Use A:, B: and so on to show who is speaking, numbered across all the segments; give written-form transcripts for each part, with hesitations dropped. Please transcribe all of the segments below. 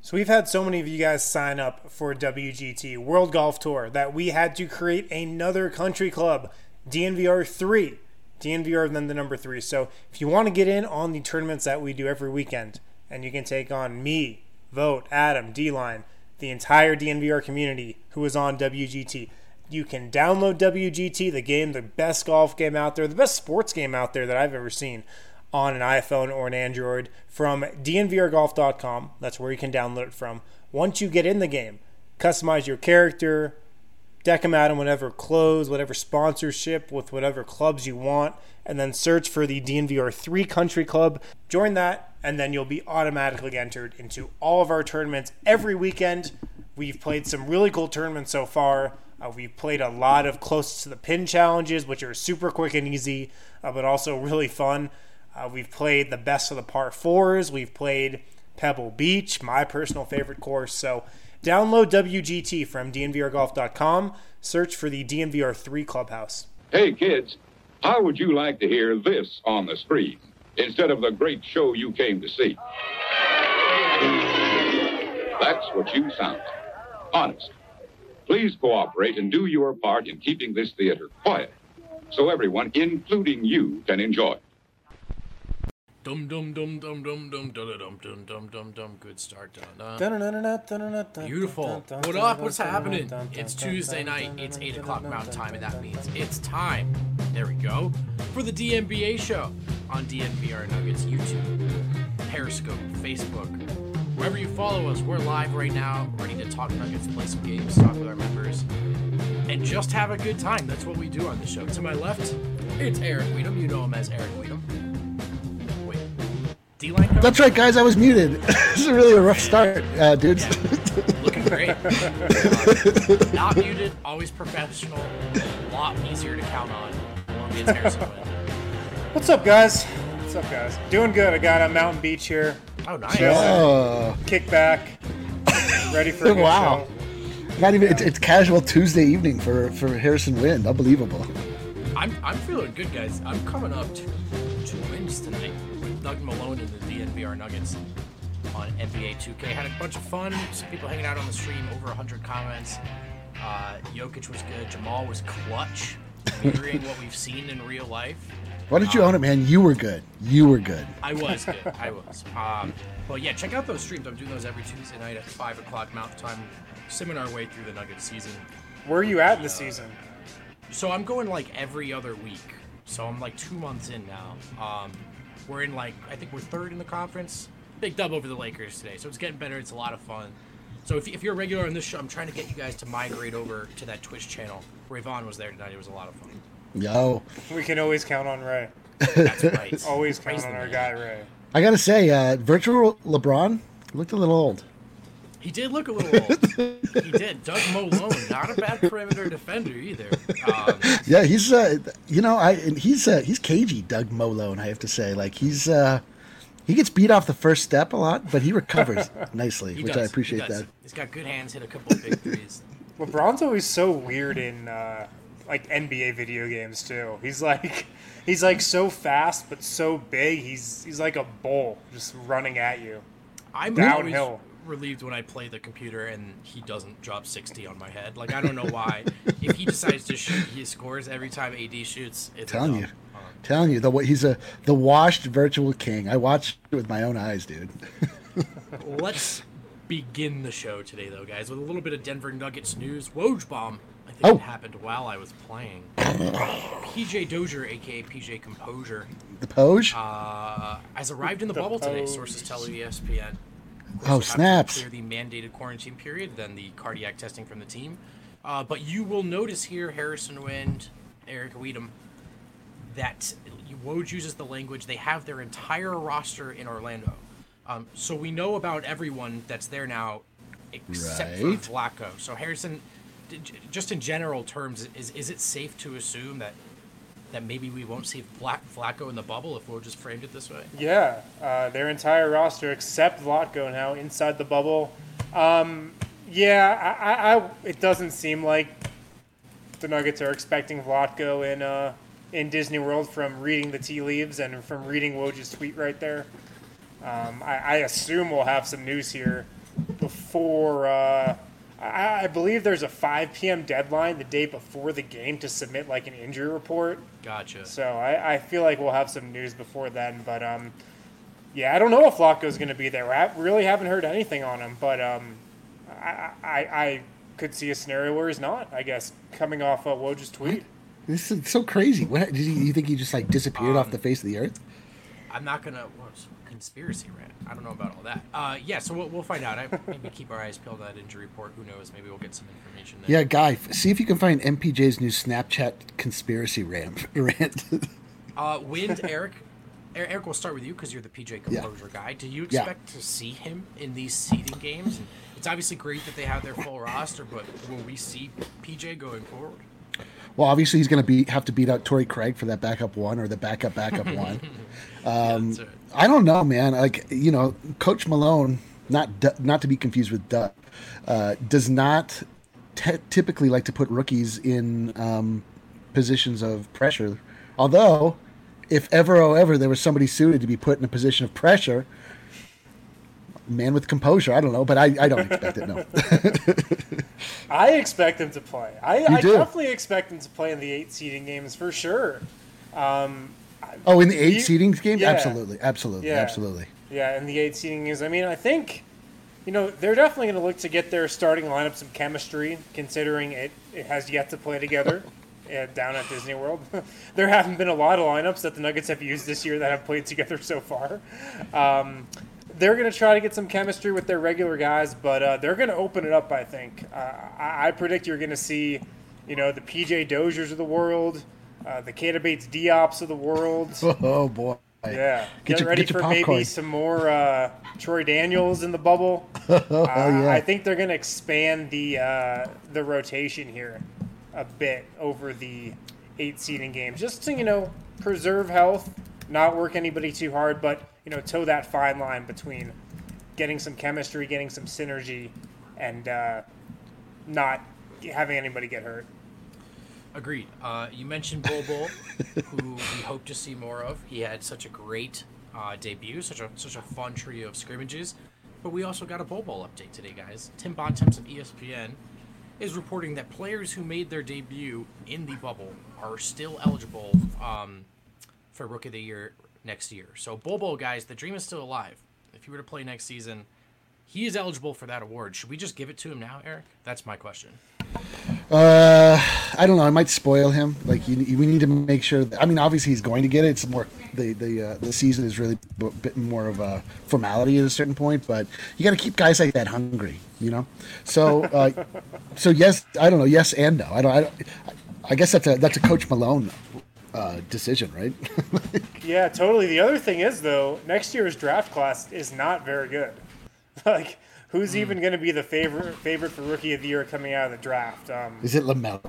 A: So we've had so many of you guys sign up for WGT, World Golf Tour, that we had to create another country club, DNVR 3. DNVR then the number 3. So if you want to get in on the tournaments that we do every weekend, and you can take on me, Vote, Adam, D-Line, the entire DNVR community who is on WGT, you can download WGT, the game, the best golf game out there, the best sports game out there that I've ever seen, on an iPhone or an Android from dnvrgolf.com. That's where you can download it from. Once you get in the game, customize your character, deck them out in whatever clothes, whatever sponsorship, with whatever clubs you want, and then search for the DNVR 3 Country Club. Join that, and then you'll be automatically entered into all of our tournaments every weekend. We've played some really cool tournaments so far. We've played a lot of close to the pin challenges, which are super quick and easy, but also really fun. We've played the best of the par 4s. We've played Pebble Beach, my personal favorite course. So download WGT from dnvrgolf.com. Search for the DNVR 3 Clubhouse.
B: Hey, kids, how would you like to hear this on the screen instead of the great show you came to see? That's what you sound like. Honest. Please cooperate and do your part in keeping this theater quiet so everyone, including you, can enjoy.
C: Dum dum dum dum dum dum dum dum dum dum dum dum. Good start. Beautiful. What up? What's happening? It's Tuesday night. It's 8 o'clock Mountain Time, and that means it's time. There we go. For the DNBA show on DNVR Nuggets YouTube, Periscope, Facebook. Wherever you follow us, we're live right now, ready to talk Nuggets, play some games, talk with our members, and just have a good time. That's what we do on the show. To my left, it's Eric Weedham. You know him as Eric Weedham. Wait, D-Line coach?
D: That's right, guys. I was muted. This is really a rough start, dudes.
C: Yeah. Looking great. Not muted, always professional, a lot easier to count on. It's Harrison Wind.
A: What's up, guys? Doing good. I got a Mountain Beach here.
C: Oh, nice.
A: Kick back. Ready for a good
D: wow.
A: show.
D: Not even. It's casual Tuesday evening for Harrison Wind. Unbelievable.
C: I'm feeling good, guys. I'm coming up to 2 wins tonight with Doug Malone and the DNVR Nuggets on NBA 2K. Had a bunch of fun. Some people hanging out on the stream. Over 100 comments. Jokic was good. Jamal was clutch, mirroring what we've seen in real life.
D: Why don't you own it, man? You were good.
C: I was good. Well, yeah, check out those streams. I'm doing those every Tuesday night at 5 o'clock Mountain Time, simming our way through the Nuggets season.
A: Where are you at in the season?
C: So I'm going like every other week. So I'm like 2 months in now. We're in I think we're third in the conference. Big dub over the Lakers today. So it's getting better. It's a lot of fun. So if you're a regular on this show, I'm trying to get you guys to migrate over to that Twitch channel. Ravon was there tonight. It was a lot of fun.
D: Yo.
A: We can always count on Ray.
C: That's right.
A: Always count on our guy, Ray.
D: I gotta say, virtual LeBron looked a little old.
C: He did look a little old. He did. Doug Malone, not a bad perimeter defender either.
D: Yeah, he's he's cagey, Doug Malone. I have to say, he gets beat off the first step a lot, but he recovers nicely, which I appreciate that.
C: He's got good hands, hit a couple of big threes.
A: LeBron's always so weird in NBA video games too. He's like so fast but so big. He's like a bull just running at you.
C: I'm
A: downhill.
C: Always relieved when I play the computer and he doesn't drop 60 on my head. I don't know why. If he decides to shoot, he scores every time AD shoots. It's
D: telling you, he's the washed virtual king. I watched it with my own eyes, dude.
C: Let's begin the show today, though, guys, with a little bit of Denver Nuggets news. Woj bomb. I think it happened while I was playing. PJ Dozier, a.k.a. PJ Composure.
D: The Poj?
C: Has arrived in the bubble today, sources tell ESPN.
D: Oh, snaps.
C: Clear the mandated quarantine period, then the cardiac testing from the team. But you will notice here, Harrison Wind, Eric Weedham, that Woj uses the language, they have their entire roster in Orlando. So we know about everyone that's there now except for Vlatko. So Harrison, just in general terms, is it safe to assume that maybe we won't see Vlatko in the bubble if we'll just framed it this way?
A: Yeah, their entire roster except Vlatko now inside the bubble. It doesn't seem like the Nuggets are expecting Vlatko in Disney World from reading the tea leaves and from reading Woj's tweet right there. I assume we'll have some news here before. I believe there's a 5 p.m. deadline the day before the game to submit like an injury report.
C: Gotcha.
A: So I feel like we'll have some news before then. But yeah, I don't know if Flacco's going to be there. I really haven't heard anything on him. But I could see a scenario where he's not, I guess, coming off Woj's tweet.
D: This is so crazy. What you think he just like disappeared off the face of the earth?
C: I'm not gonna conspiracy rant. I don't know about all that. Yeah, so we'll find out. Maybe keep our eyes peeled on that injury report. Who knows? Maybe we'll get some information there.
D: Yeah, Guy, see if you can find MPJ's new Snapchat conspiracy rant.
C: Wind, Eric. Eric, we'll start with you because you're the PJ Composure guy. Do you expect to see him in these seeding games? And it's obviously great that they have their full roster, but will we see PJ going forward?
D: Well, obviously he's going to have to beat out Torrey Craig for that backup one or the backup one. Right. I don't know, man. Like, you know, Coach Malone, not to be confused with Doug, does not typically like to put rookies in positions of pressure. Although, if ever there was somebody suited to be put in a position of pressure, man with composure, I don't know, but I don't expect it, no.
A: I expect him to play. I definitely expect him to play in the 8 seeding games for sure.
D: In the 8 seeding games? Yeah. Absolutely.
A: Yeah, in the 8 seeding games. I mean, I think, you know, they're definitely going to look to get their starting lineup some chemistry, considering it has yet to play together down at Disney World. There haven't been a lot of lineups that the Nuggets have used this year that have played together so far. They're going to try to get some chemistry with their regular guys, but they're going to open it up, I think. I predict you're going to see, you know, the PJ Doziers of the world, the Keita Bates Diops of the world.
D: Oh, boy.
A: Yeah. Get ready for maybe some more Troy Daniels in the bubble. I think they're going to expand the rotation here a bit over the 8 seeding games, just to, you know, preserve health, not work anybody too hard, but, you know, toe that fine line between getting some chemistry, getting some synergy, and not having anybody get hurt.
C: Agreed. You mentioned Bol Bol, who we hope to see more of. He had such a great debut, such a fun trio of scrimmages. But we also got a Bol Bol update today, guys. Tim Bontemps of ESPN is reporting that players who made their debut in the bubble are still eligible for Rookie of the Year next year. So Bol Bol, guys, the dream is still alive. If he were to play next season, he is eligible for that award. Should we just give it to him now, Eric? That's my question.
D: I don't know. I might spoil him. Like, we need to make sure. I mean, obviously he's going to get it. It's more the season is really a bit more of a formality at a certain point, but you got to keep guys like that hungry, you know. So, so yes, I don't know. Yes and no. I guess that's a Coach Malone decision, right?
A: Yeah, totally. The other thing is, though, next year's draft class is not very good. Like, who's even going to be the favorite for Rookie of the Year coming out of the draft?
D: Is it LaMelo?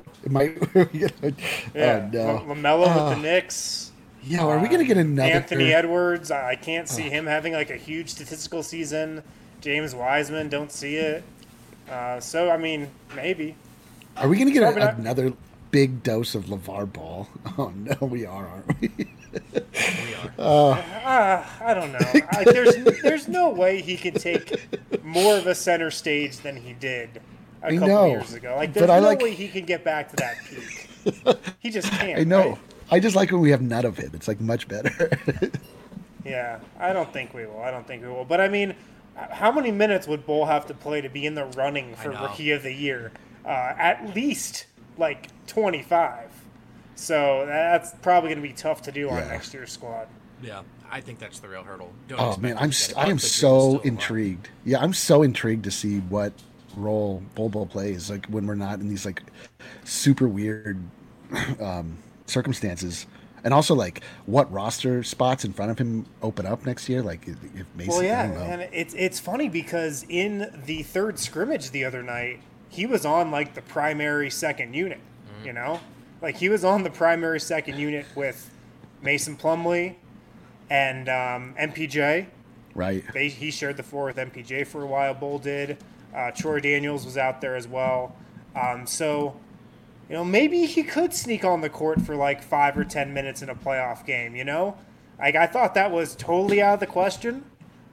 A: Yeah, no. LaMelo with the Knicks.
D: Yeah, are we going to get another
A: Anthony Edwards? I can't see him having like a huge statistical season. James Wiseman, don't see it. So I mean, maybe.
D: Are we going to get another big dose of LeVar Ball? Oh no, we are, aren't we?
C: We are.
A: I don't know. There's no way he can take more of a center stage than he did a couple years ago. Like, there's no way he can get back to that peak. He just can't.
D: I know.
A: Right?
D: I just like when we have none of him. It's like much better.
A: Yeah, I don't think we will. But I mean, how many minutes would Bull have to play to be in the running for Rookie of the Year? At least like 25. So that's probably going to be tough to do on next year's squad.
C: Yeah, I think that's the real hurdle.
D: I am so intrigued. Yeah, I'm so intrigued to see what role Bol Bol plays, like when we're not in these like super weird circumstances, and also like what roster spots in front of him open up next year. Like if Mason.
A: Well, yeah, and it's funny because in the third scrimmage the other night, he was on like the primary second unit. Mm-hmm. You know. Like, he was on the primary second unit with Mason Plumlee and MPJ.
D: Right.
A: He shared the floor with MPJ for a while. Bull did. Troy Daniels was out there as well. So, you know, maybe he could sneak on the court for like 5 or 10 minutes in a playoff game, you know? Like, I thought that was totally out of the question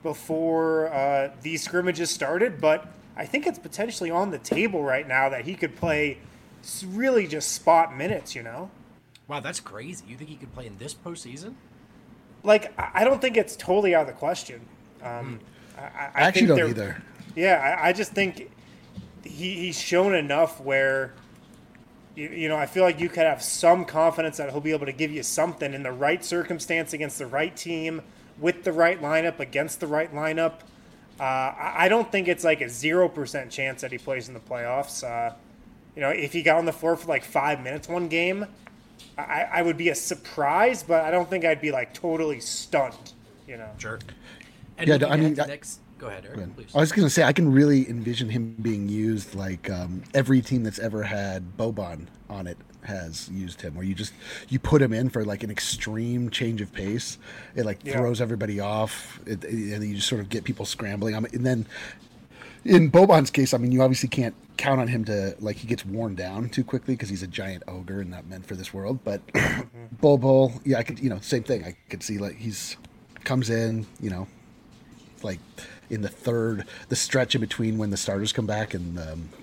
A: before these scrimmages started, but I think it's potentially on the table right now that he could play really just spot minutes, you know?
C: Wow, that's crazy. You think he could play in this postseason?
A: Like, I don't think it's totally out of the question. I
D: actually
A: think
D: don't either.
A: Yeah, I just think he's shown enough where, you know, I feel like you could have some confidence that he'll be able to give you something in the right circumstance against the right team, with the right lineup, against the right lineup. I don't think it's like a 0% chance that he plays in the playoffs. You know, if he got on the floor for like 5 minutes one game, I would be a surprise, but I don't think I'd be like totally stunned, you know.
C: Sure. And
D: Yeah, I mean,
C: next. Go ahead, Eric, please.
D: I was going to say, I can really envision him being used like every team that's ever had Boban on it has used him, where you put him in for like an extreme change of pace. It like throws everybody off, and you just sort of get people scrambling. And then in Boban's case, I mean, you obviously can't count on him to, like, he gets worn down too quickly because he's a giant ogre and not meant for this world. But Bol, yeah, I could, you know, same thing. I could see like comes in, you know, like in the stretch in between when the starters come back and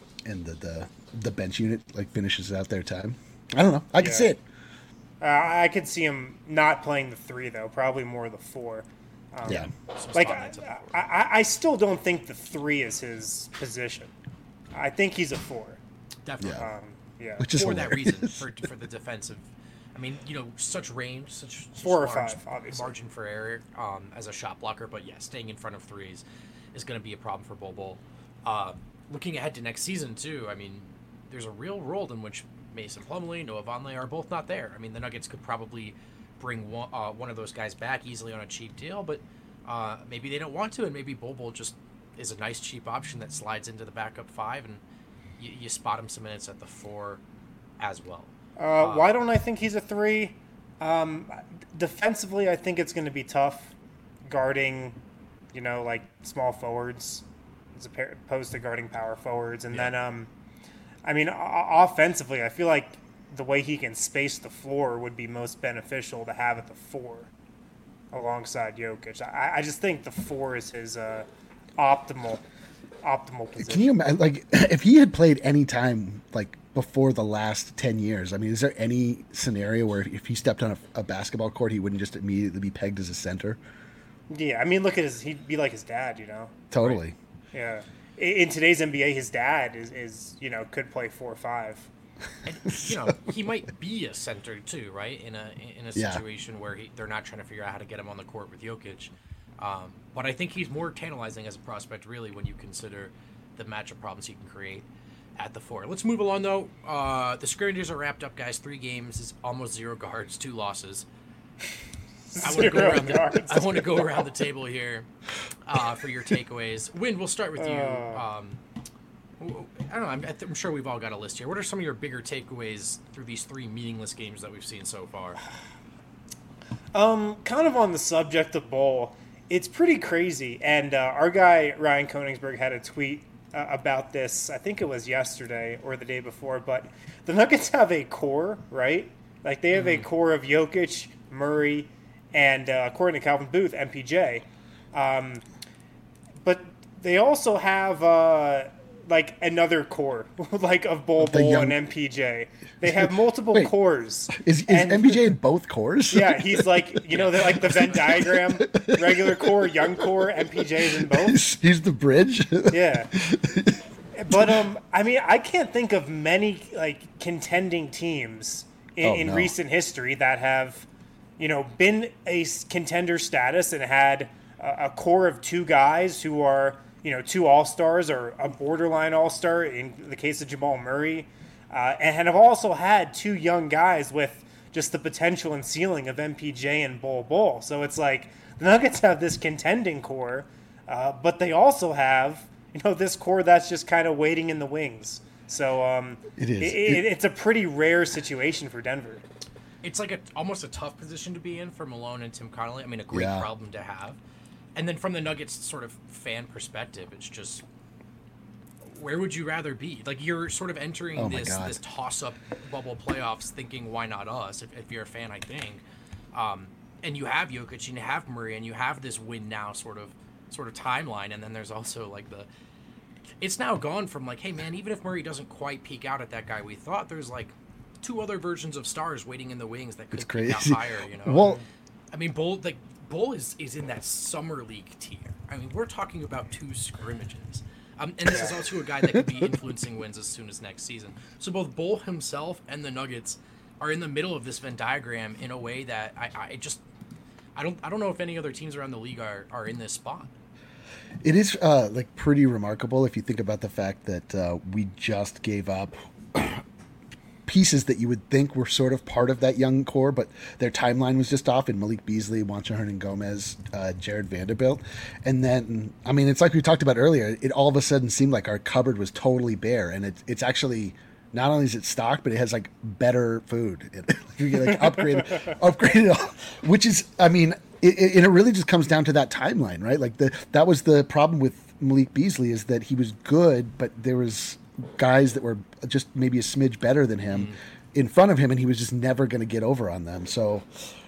D: the bench unit like finishes out their time. I don't know. I can see it.
A: I could see him not playing the 3 though, probably more the 4. Like I still don't think the 3 is his position. I think he's a 4.
C: Definitely.
A: Yeah.
D: Which is
C: for
D: hilarious.
C: that reason, for the defensive. I mean, you know, such range, such
A: 4 or
C: large
A: 5, obviously.
C: margin for error as a shot blocker. But yeah, staying in front of threes is going to be a problem for Bol. Looking ahead to next season too, I mean, there's a real world in which Mason Plumlee, Noah Vonleh are both not there. I mean, the Nuggets could probably bring one of those guys back easily on a cheap deal, but maybe they don't want to, and maybe Bol just is a nice cheap option that slides into the backup 5, and you spot him some minutes at the 4 as well.
A: Why don't I think he's a 3? Defensively, I think it's going to be tough guarding, you know, like small forwards as opposed to guarding power forwards. And then, I mean, offensively, I feel like the way he can space the floor would be most beneficial to have at the 4 alongside Jokic. I just think the 4 is his optimal position.
D: Can you imagine, like, if he had played any time, like, before the last 10 years, I mean, is there any scenario where if he stepped on a basketball court, he wouldn't just immediately be pegged as a center?
A: Yeah, I mean, look at he'd be like his dad, you know?
D: Totally.
A: Right? Yeah. In today's NBA, his dad is you know, could play 4 or 5.
C: And, you know, he might be a center too, right? In a situation where they're not trying to figure out how to get him on the court with Jokic. But I think he's more tantalizing as a prospect, really, when you consider the matchup problems he can create at the 4. Let's move along, though. The scrimmages are wrapped up, guys. 3 games is almost 0 guards, 2 losses. I want to go around the table here for your takeaways. Win, we'll start with you. I don't know. I'm sure we've all got a list here. What are some of your bigger takeaways through these 3 meaningless games that we've seen so far?
A: Kind of on the subject of Bol, it's pretty crazy. And our guy Ryan Koenigsberg had a tweet about this. I think it was yesterday or the day before. But the Nuggets have a core, right? Like they have a core of Jokic, Murray, and according to Calvin Booth, MPJ. But they also have like another core, like of Bol and MPJ. They have multiple cores.
D: Is MPJ in both cores?
A: Yeah, he's like, you know, they're like the Venn diagram, regular core, young core, MPJ's in both.
D: He's the bridge.
A: Yeah. But I mean, I can't think of many like contending teams in recent history that have, you know, been a contender status and had a core of 2 guys who are, you know, 2 all-stars or a borderline all-star in the case of Jamal Murray, and have also had 2 young guys with just the potential and ceiling of MPJ and Bol. So it's like the Nuggets have this contending core, but they also have, you know, this core that's just kind of waiting in the wings. So it's a pretty rare situation for Denver.
C: It's like almost a tough position to be in for Malone and Tim Connelly. I mean, a great problem to have. And then from the Nuggets sort of fan perspective, it's just, where would you rather be? Like, you're sort of entering this toss-up bubble playoffs thinking, why not us, if you're a fan, I think. And you have Jokic, and you have Murray, and you have this win-now sort of sort of timeline, and then there's also like it's now gone from like, hey man, even if Murray doesn't quite peak out at that guy we thought, there's like 2 other versions of stars waiting in the wings that could peak out higher, you know.
D: Well,
C: I mean, Bull is in that summer league tier. I mean, we're talking about 2 scrimmages. And this is also a guy that could be influencing wins as soon as next season. So both Bull himself and the Nuggets are in the middle of this Venn diagram in a way that I don't know if any other teams around the league are in this spot.
D: It is like pretty remarkable if you think about the fact that we just gave up pieces that you would think were sort of part of that young core, but their timeline was just off in Malik Beasley, Juancho Hernan-Gomez, Jared Vanderbilt. And then, I mean, it's like we talked about earlier, it all of a sudden seemed like our cupboard was totally bare, and it's actually, not only is it stocked, but it has like better food. You get like upgraded, which is, I mean, it really just comes down to that timeline, right? Like that was the problem with Malik Beasley, is that he was good, but there was guys that were just maybe a smidge better than him in front of him, and he was just never going to get over on them. So,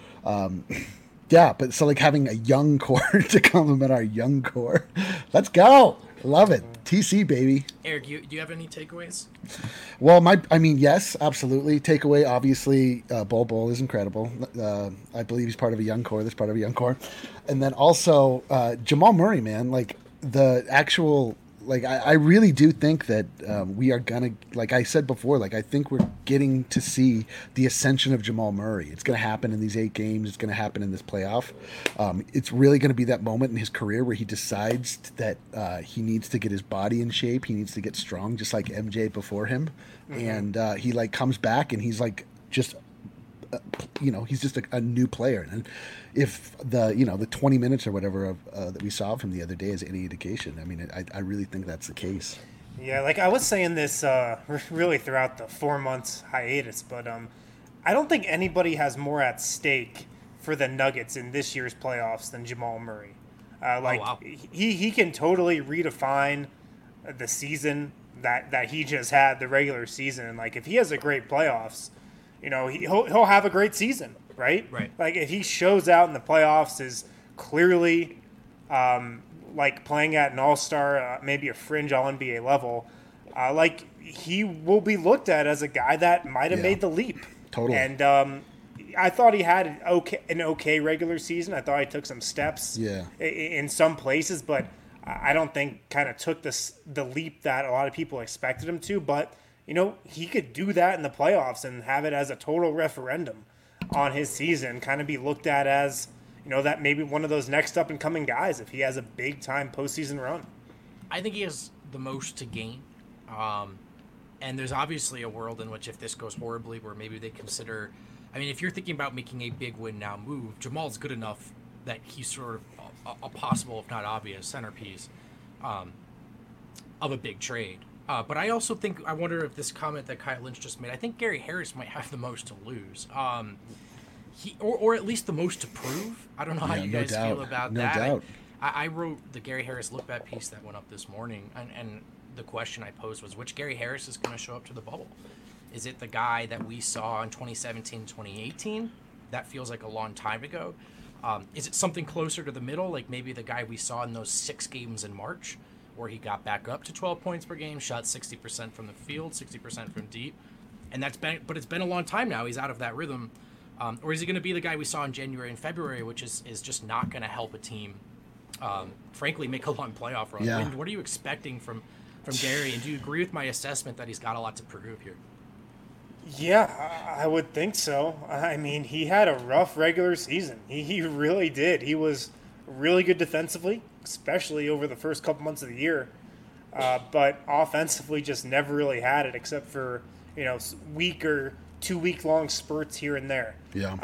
D: yeah, but so like having a young core to complement our young core, let's go. Love it. TC, baby.
C: Eric, do you have any takeaways?
D: Well, yes, absolutely. Takeaway, obviously, Bol is incredible. I believe he's part of a young core. That's part of a young core. And then also Jamal Murray, man, like the actual, like I really do think that we are gonna, like I said before, like I think we're getting to see the ascension of Jamal Murray. It's gonna happen in these 8 games. It's gonna happen in this playoff. It's really gonna be that moment in his career where he decides that he needs to get his body in shape. He needs to get strong, just like MJ before him. Mm-hmm. And he like comes back and he's like just. He's just a new player, and if the 20 minutes or whatever that we saw from the other day is any indication, I mean, I really think that's the case.
A: Yeah, like I was saying this really throughout the 4 months hiatus, but I don't think anybody has more at stake for the Nuggets in this year's playoffs than Jamal Murray. He can totally redefine the season that he just had, the regular season, and like if he has a great playoffs, he'll have a great season, right?
C: Right.
A: Like if he shows out in the playoffs, is clearly like playing at an all-star, maybe a fringe all-NBA level, like he will be looked at as a guy that might have made the leap.
D: Totally.
A: And I thought he had an okay regular season. I thought he took some steps in some places, but I don't think kind of took the leap that a lot of people expected him to. But he could do that in the playoffs and have it as a total referendum on his season, kind of be looked at as, that maybe one of those next up and coming guys if he has a big time postseason run.
C: I think he has the most to gain. And there's obviously a world in which if this goes horribly where maybe they consider, I mean, if you're thinking about making a big win now move, Jamal's good enough that he's sort of a possible, if not obvious, centerpiece of a big trade. But I also think, I wonder if this comment that Kyle Lynch just made, I think Gary Harris might have the most to lose. Or at least the most to prove. I don't know how you guys feel about that.
D: No doubt.
C: I wrote the Gary Harris Look Back piece that went up this morning, and the question I posed was, which Gary Harris is going to show up to the bubble? Is it the guy that we saw in 2017, 2018? That feels like a long time ago. Is it something closer to the middle, like maybe the guy we saw in those 6 games in March, where he got back up to 12 points per game, shot 60% from the field, 60% from deep, and but it's been a long time now. He's out of that rhythm. Or is he going to be the guy we saw in January and February, which is just not going to help a team, frankly, make a long playoff run?
D: Yeah.
C: What are you expecting from Gary, and do you agree with my assessment that he's got a lot to prove here?
A: Yeah, I would think so. I mean, he had a rough regular season. He really did. He was really good defensively, especially over the first couple months of the year. But offensively just never really had it, except for, week or 2 week long spurts here and there.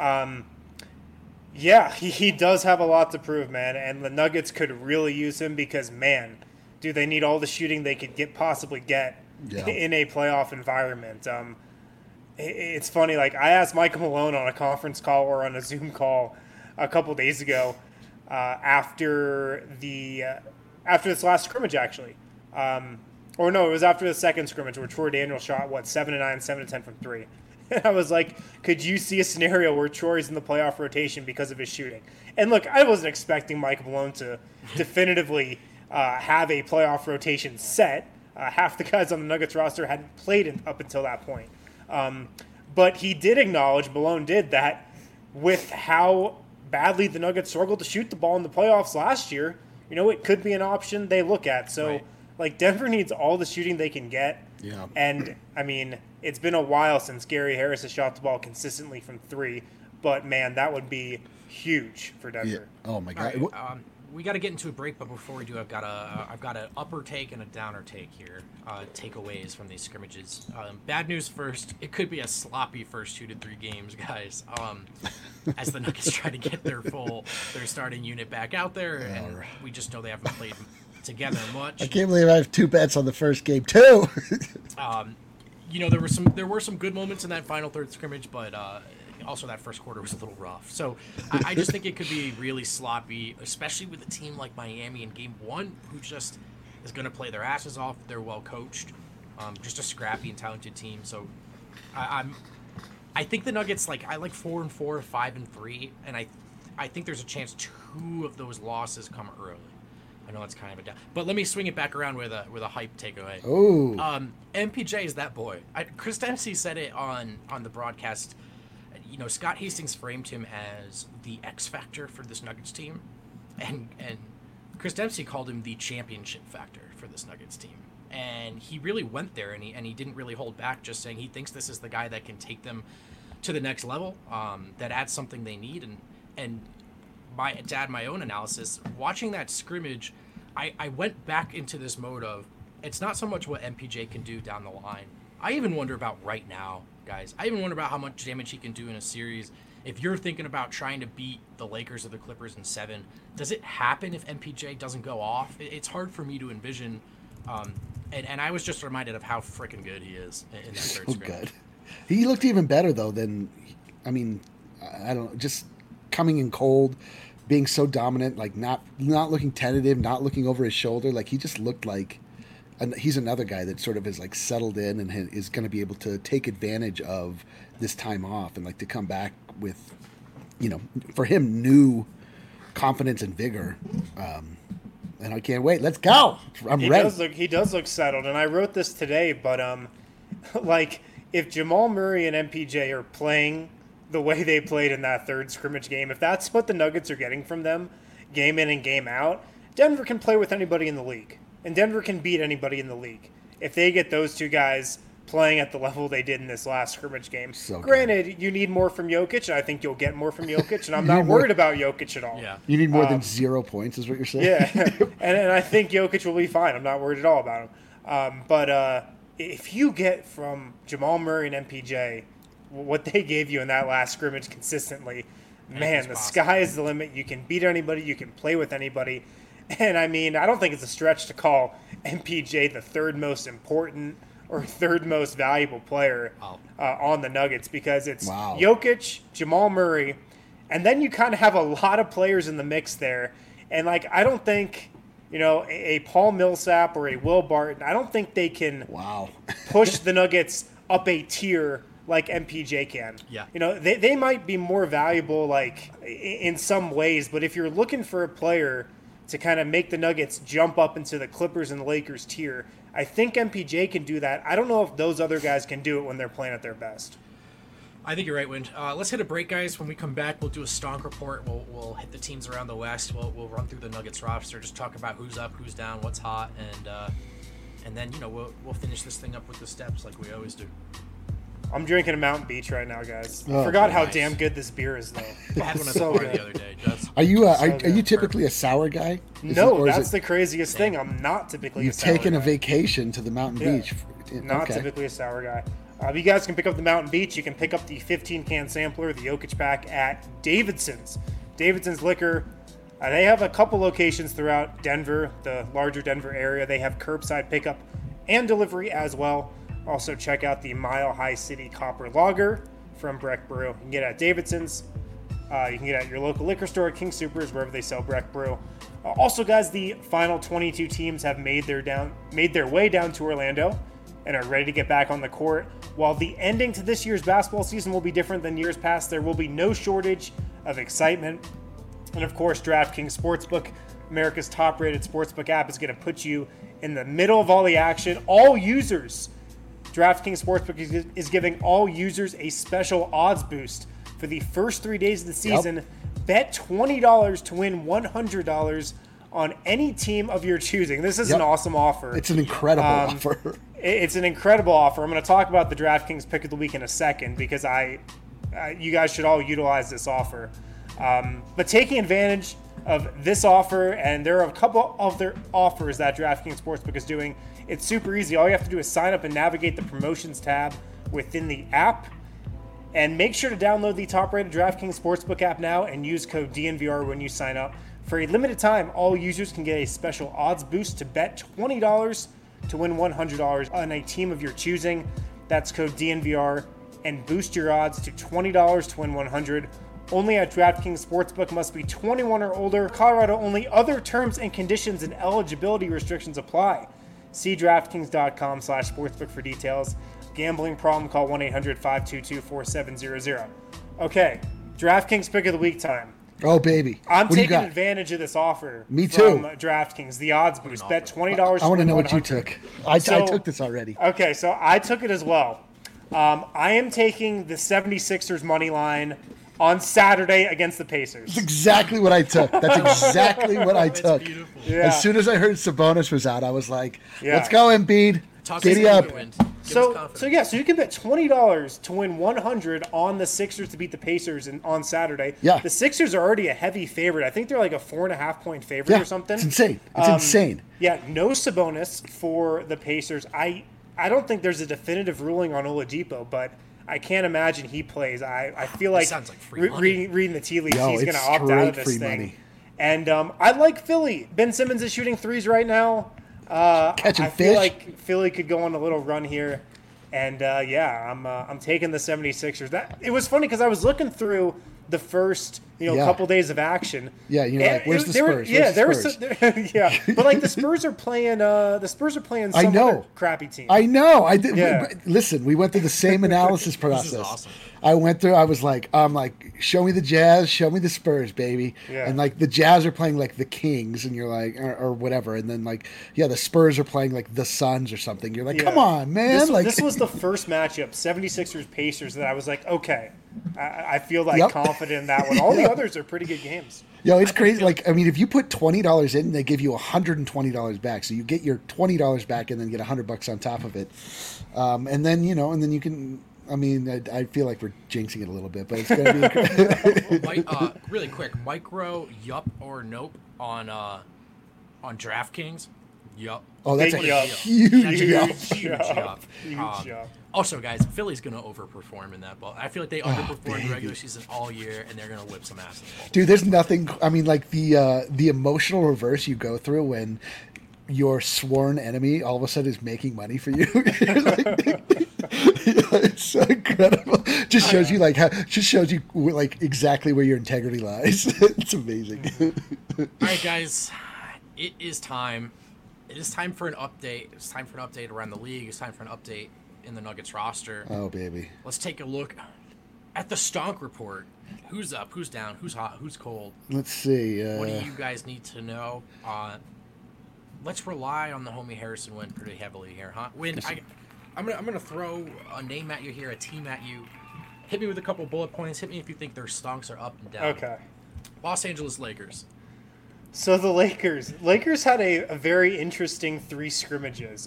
D: Yeah.
A: He does have a lot to prove, man. And the Nuggets could really use him because, man, do they need all the shooting they could possibly get in a playoff environment. It's funny, like I asked Michael Malone on a conference call or on a Zoom call a couple days ago after this last scrimmage, actually. Or no, it was after the second scrimmage where Troy Daniels shot, 7-9, 7-10 from 3. And I was like, could you see a scenario where Troy's in the playoff rotation because of his shooting? And look, I wasn't expecting Mike Malone to definitively have a playoff rotation set. Half the guys on the Nuggets roster hadn't played up until that point. But he did acknowledge, Malone did, that with how badly the Nuggets struggled to shoot the ball in the playoffs last year, it could be an option they look at. So, Denver needs all the shooting they can get.
D: Yeah.
A: And, it's been a while since Gary Harris has shot the ball consistently from 3. But, man, that would be huge for Denver.
D: Yeah. Oh, my God.
C: Right, we got to get into a break, but before we do, I've got an upper take and a downer take here. Takeaways from these scrimmages. Bad news first. It could be a sloppy first 2 to 3 games, guys. As the Nuggets try to get their starting unit back out there, and we just know they haven't played together much.
D: I can't believe I have 2 bets on the first game too.
C: There were some good moments in that final third scrimmage, but also that first quarter was a little rough. So I just think it could be really sloppy, especially with a team like Miami in game 1, who just is going to play their asses off. They're well coached, just a scrappy and talented team. So I think the Nuggets, I like 4-4, 5-3, and I think there's a chance 2 of those losses come early. I know that's kind of a down, but let me swing it back around with a hype takeaway.
D: Oh,
C: MPJ is that boy. Chris Dempsey said it on the broadcast. Scott Hastings framed him as the X factor for this Nuggets team, and Chris Dempsey called him the championship factor for this Nuggets team. And he really went there, and he didn't really hold back, just saying he thinks this is the guy that can take them to the next level, that adds something they need. And to add my own analysis, watching that scrimmage, I went back into this mode of, it's not so much what MPJ can do down the line. I even wonder about right now, guys. I even wonder about how much damage he can do in a series. If you're thinking about trying to beat the Lakers or the Clippers in 7, does it happen if MPJ doesn't go off? It's hard for me to envision. And I was just reminded of how freaking good he is in that third
D: so
C: scrimmage.
D: good. He looked even better, though, than, I don't know, just coming in cold, being so dominant, not looking tentative, not looking over his shoulder. He just looked like he's another guy that sort of is settled in and is going to be able to take advantage of this time off and to come back with, for him, new confidence and vigor. And I can't wait. Let's go. I'm ready.
A: He does look settled. And I wrote this today, but if Jamal Murray and MPJ are playing the way they played in that third scrimmage game, if that's what the Nuggets are getting from them, game in and game out, Denver can play with anybody in the league. And Denver can beat anybody in the league if they get those 2 guys playing at the level they did in this last scrimmage game.
D: So
A: granted, you need more from Jokic, and I think you'll get more from Jokic, and I'm not worried about Jokic at all.
C: Yeah.
D: You need more than 0 points is what you're saying?
A: Yeah, and I think Jokic will be fine. I'm not worried at all about him. But if you get from Jamal Murray and MPJ what they gave you in that last scrimmage consistently, man, the sky is the limit. You can beat anybody. You can play with anybody. And, I don't think it's a stretch to call MPJ the 3rd most important or 3rd most valuable player on the Nuggets, because it's Jokic, Jamal Murray, and then you kind of have a lot of players in the mix there. And, I don't think, a Paul Millsap or a Will Barton, I don't think they can push the Nuggets up a tier like MPJ can.
C: Yeah.
A: They might be more valuable, in some ways, but if you're looking for a player to kind of make the Nuggets jump up into the Clippers and the Lakers tier, I think MPJ can do that. I don't know if those other guys can do it when they're playing at their best.
C: I think you're right, Wind. Let's hit a break, guys. When we come back, we'll do a Stonk report. We'll hit the teams around the West. We'll run through the Nuggets roster, just talk about who's up, who's down, what's hot, and then we'll finish this thing up with the steps like we always do.
A: I'm drinking a Mountain Beach right now, guys. I forgot how damn good this beer is, though.
C: I had one at the bar the other day, Jess.
D: Are you typically a sour guy?
A: No, that's the craziest thing. I'm not typically a sour guy.
D: You've taken a vacation to the Mountain Beach.
A: Not typically a sour guy. You guys can pick up the Mountain Beach. You can pick up the 15-can sampler, the Jokic pack, at Davidson's. Davidson's Liquor. They have a couple locations throughout Denver, the larger Denver area. They have curbside pickup and delivery as well. Also, check out the Mile High City Copper Lager from Breck Brew. You can get it at Davidson's. You can get it at your local liquor store, King Soopers, wherever they sell Breck Brew. Also, guys, the final 22 teams have made their way down to Orlando. and are ready to get back on the court. While the ending to this year's basketball season will be different than years past, there will be no shortage of excitement. And of course, DraftKings Sportsbook, America's top-rated sportsbook app, is going to put you in the middle of all the action. DraftKings Sportsbook is giving all users a special odds boost for the first 3 days of the season.
D: Yep.
A: Bet $20 to win $100 on any team of your choosing. This is an awesome offer.
D: It's an incredible offer.
A: It's an incredible offer. I'm going to talk about the DraftKings pick of the week in a second because you guys should all utilize this offer. But taking advantage of this offer, and there are a couple of other offers that DraftKings Sportsbook is doing, it's super easy. All you have to do is sign up and navigate the promotions tab within the app. And make sure to download the top-rated DraftKings Sportsbook app now and use code DNVR when you sign up. For a limited time, all users can get a special odds boost to bet $20 to win $100 on a team of your choosing. That's code DNVR, and boost your odds to $20 to win $100. Only at DraftKings Sportsbook. Must be 21 or older. Colorado only. Other terms and conditions and eligibility restrictions apply. See DraftKings.com/sportsbook for details. Gambling problem, call 1-800-522-4700. Okay, DraftKings pick of the week time.
D: Oh, baby.
A: I'm taking advantage of this offer.
D: Me too.
A: From DraftKings, the odds boost. Bet $20.
D: I want to know what you took. I took this already.
A: Okay, so I took it as well. I am taking the 76ers money line on Saturday against the Pacers.
D: That's exactly what I took. That's exactly what I took.
A: Yeah.
D: As soon as I heard Sabonis was out, I was like, let's go, Embiid. Giddy up.
A: So you can bet $20 to win $100 on the Sixers to beat the Pacers on Saturday.
D: Yeah.
A: The Sixers are already a heavy favorite. I think they're like a 4.5-point favorite or something.
D: It's insane. It's insane.
A: Yeah, no Sabonis for the Pacers. I don't think there's a definitive ruling on Oladipo, but I can't imagine he plays. I feel like,
C: sounds like free money.
A: reading the tea leaves, he's going to opt out of this
D: free
A: thing.
D: money.
A: And I like Philly. Ben Simmons is shooting threes right now.
D: Catching
A: I
D: fish.
A: feel like Philly could go on a little run here. And, I'm taking the 76ers. It was funny because I was looking through the first couple days of action.
D: Yeah, you're like, where's the Spurs?
A: But like the Spurs are playing some other crappy team.
D: I know. I did. Yeah. Listen, we went through the same analysis process.
C: This is awesome.
D: I was like, show me the Jazz, show me the Spurs, baby. Yeah. And like the Jazz are playing like the Kings, and you're like, or whatever. And then like, the Spurs are playing like the Suns or something. You're like, come on, man.
A: This was the first matchup, 76ers Pacers, that I was like, okay, I feel like confident in that one. All the others are pretty good games.
D: It's crazy. Like, I mean, if you put $20 in, they give you $120 back. So you get your $20 back and then get $100 on top of it. And then you can. I mean, I feel like we're jinxing it a little bit, but it's going to
C: be really quick. Micro yup or nope on DraftKings. Yup.
D: Oh, that's a huge yup.
C: Huge yup. Also, guys, Philly's going to overperform in that ball. I feel like they underperformed the regular season all year, and they're going to whip some ass in the ball.
D: Dude, there's nothing. I mean, like the emotional reverse you go through when your sworn enemy all of a sudden is making money for you. It's so incredible. Just shows you exactly where your integrity lies. It's amazing.
C: All right, guys, it is time. It is time for an update. It's time for an update around the league. It's time for an update in the Nuggets roster.
D: Oh, baby.
C: Let's take a look at the Stonk report. Who's up? Who's down? Who's hot? Who's cold?
D: Let's see.
C: What do you guys need to know? Let's rely on the homie Harrison Wind pretty heavily here, huh? Wind, I'm gonna throw a name at you here, a team at you. Hit me with a couple bullet points. Hit me if you think their stonks are up and down.
A: Okay.
C: Los Angeles Lakers.
A: So the Lakers had a very interesting 3 scrimmages.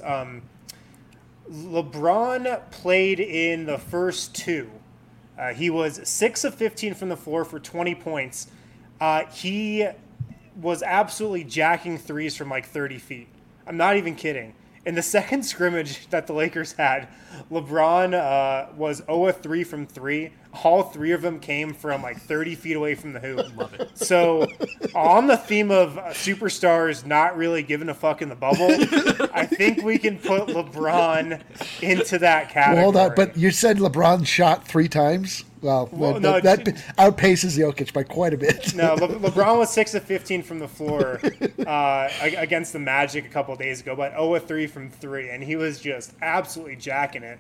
A: LeBron played in the first 2. He was 6 of 15 from the floor for 20 points. He was absolutely jacking threes from like 30 feet. I'm not even kidding. In the second scrimmage that the Lakers had, LeBron was 0 of 3 from 3. All 3 of them came from like 30 feet away from the hoop.
C: Love it.
A: So on the theme of superstars not really giving a fuck in the bubble, I think we can put LeBron into that category.
D: Well, hold on, but you said LeBron shot 3 times? Well,
A: no,
D: that outpaces Jokic by quite a bit.
A: No, LeBron was 6 of 15 from the floor against the Magic a couple of days ago, but 0 of 3 from 3, and he was just absolutely jacking it.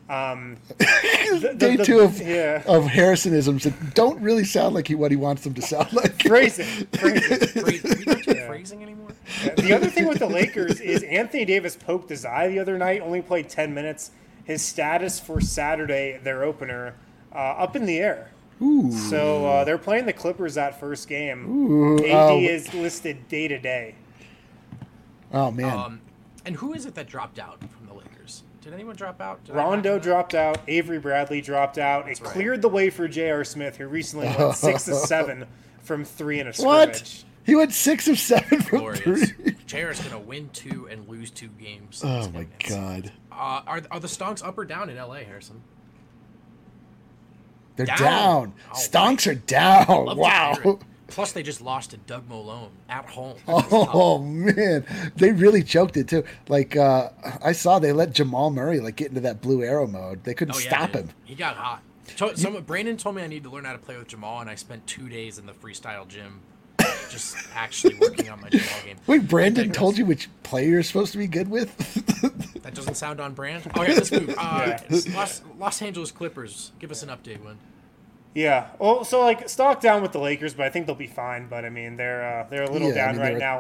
D: Day two of Harrisonisms that don't really sound like what he wants them to sound like.
A: Phrasing.
C: Phrasing anymore?
A: Yeah. The other thing with the Lakers is Anthony Davis poked his eye the other night, only played 10 minutes. His status for Saturday, their opener, up in the air.
D: Ooh.
A: So they're playing the Clippers that first game.
D: Ooh.
A: AD is listed day to day.
D: Oh, man.
C: And who is it that dropped out from the Lakers? Did anyone drop out?
A: Rondo dropped out. Avery Bradley dropped out. It cleared the way for J.R. Smith, who recently went 6 of 7 from 3 in a scrimmage.
D: What? He went 6 of 7 from 3.
C: J.R.'s going to win 2 and lose 2 games.
D: Oh, my God.
C: Are the Stonks up or down in L.A., Harrison?
D: They're down.
C: Oh,
D: Stonks are down. Wow.
C: Plus, they just lost to Doug Malone at home.
D: Oh, man. They really choked it, too. Like, I saw they let Jamal Murray, get into that blue arrow mode. They couldn't stop him.
C: He got hot. Brandon told me I need to learn how to play with Jamal, and I spent 2 days in the freestyle gym just actually working on my Jamal game.
D: Wait, Brandon told you which player you're supposed to be good with?
C: That doesn't sound on brand. Oh, yeah, let's move. Los Angeles Clippers. Give us an update, Win.
A: Yeah. Well, so stock down with the Lakers, but I think they'll be fine. But I mean, they're a little down right now.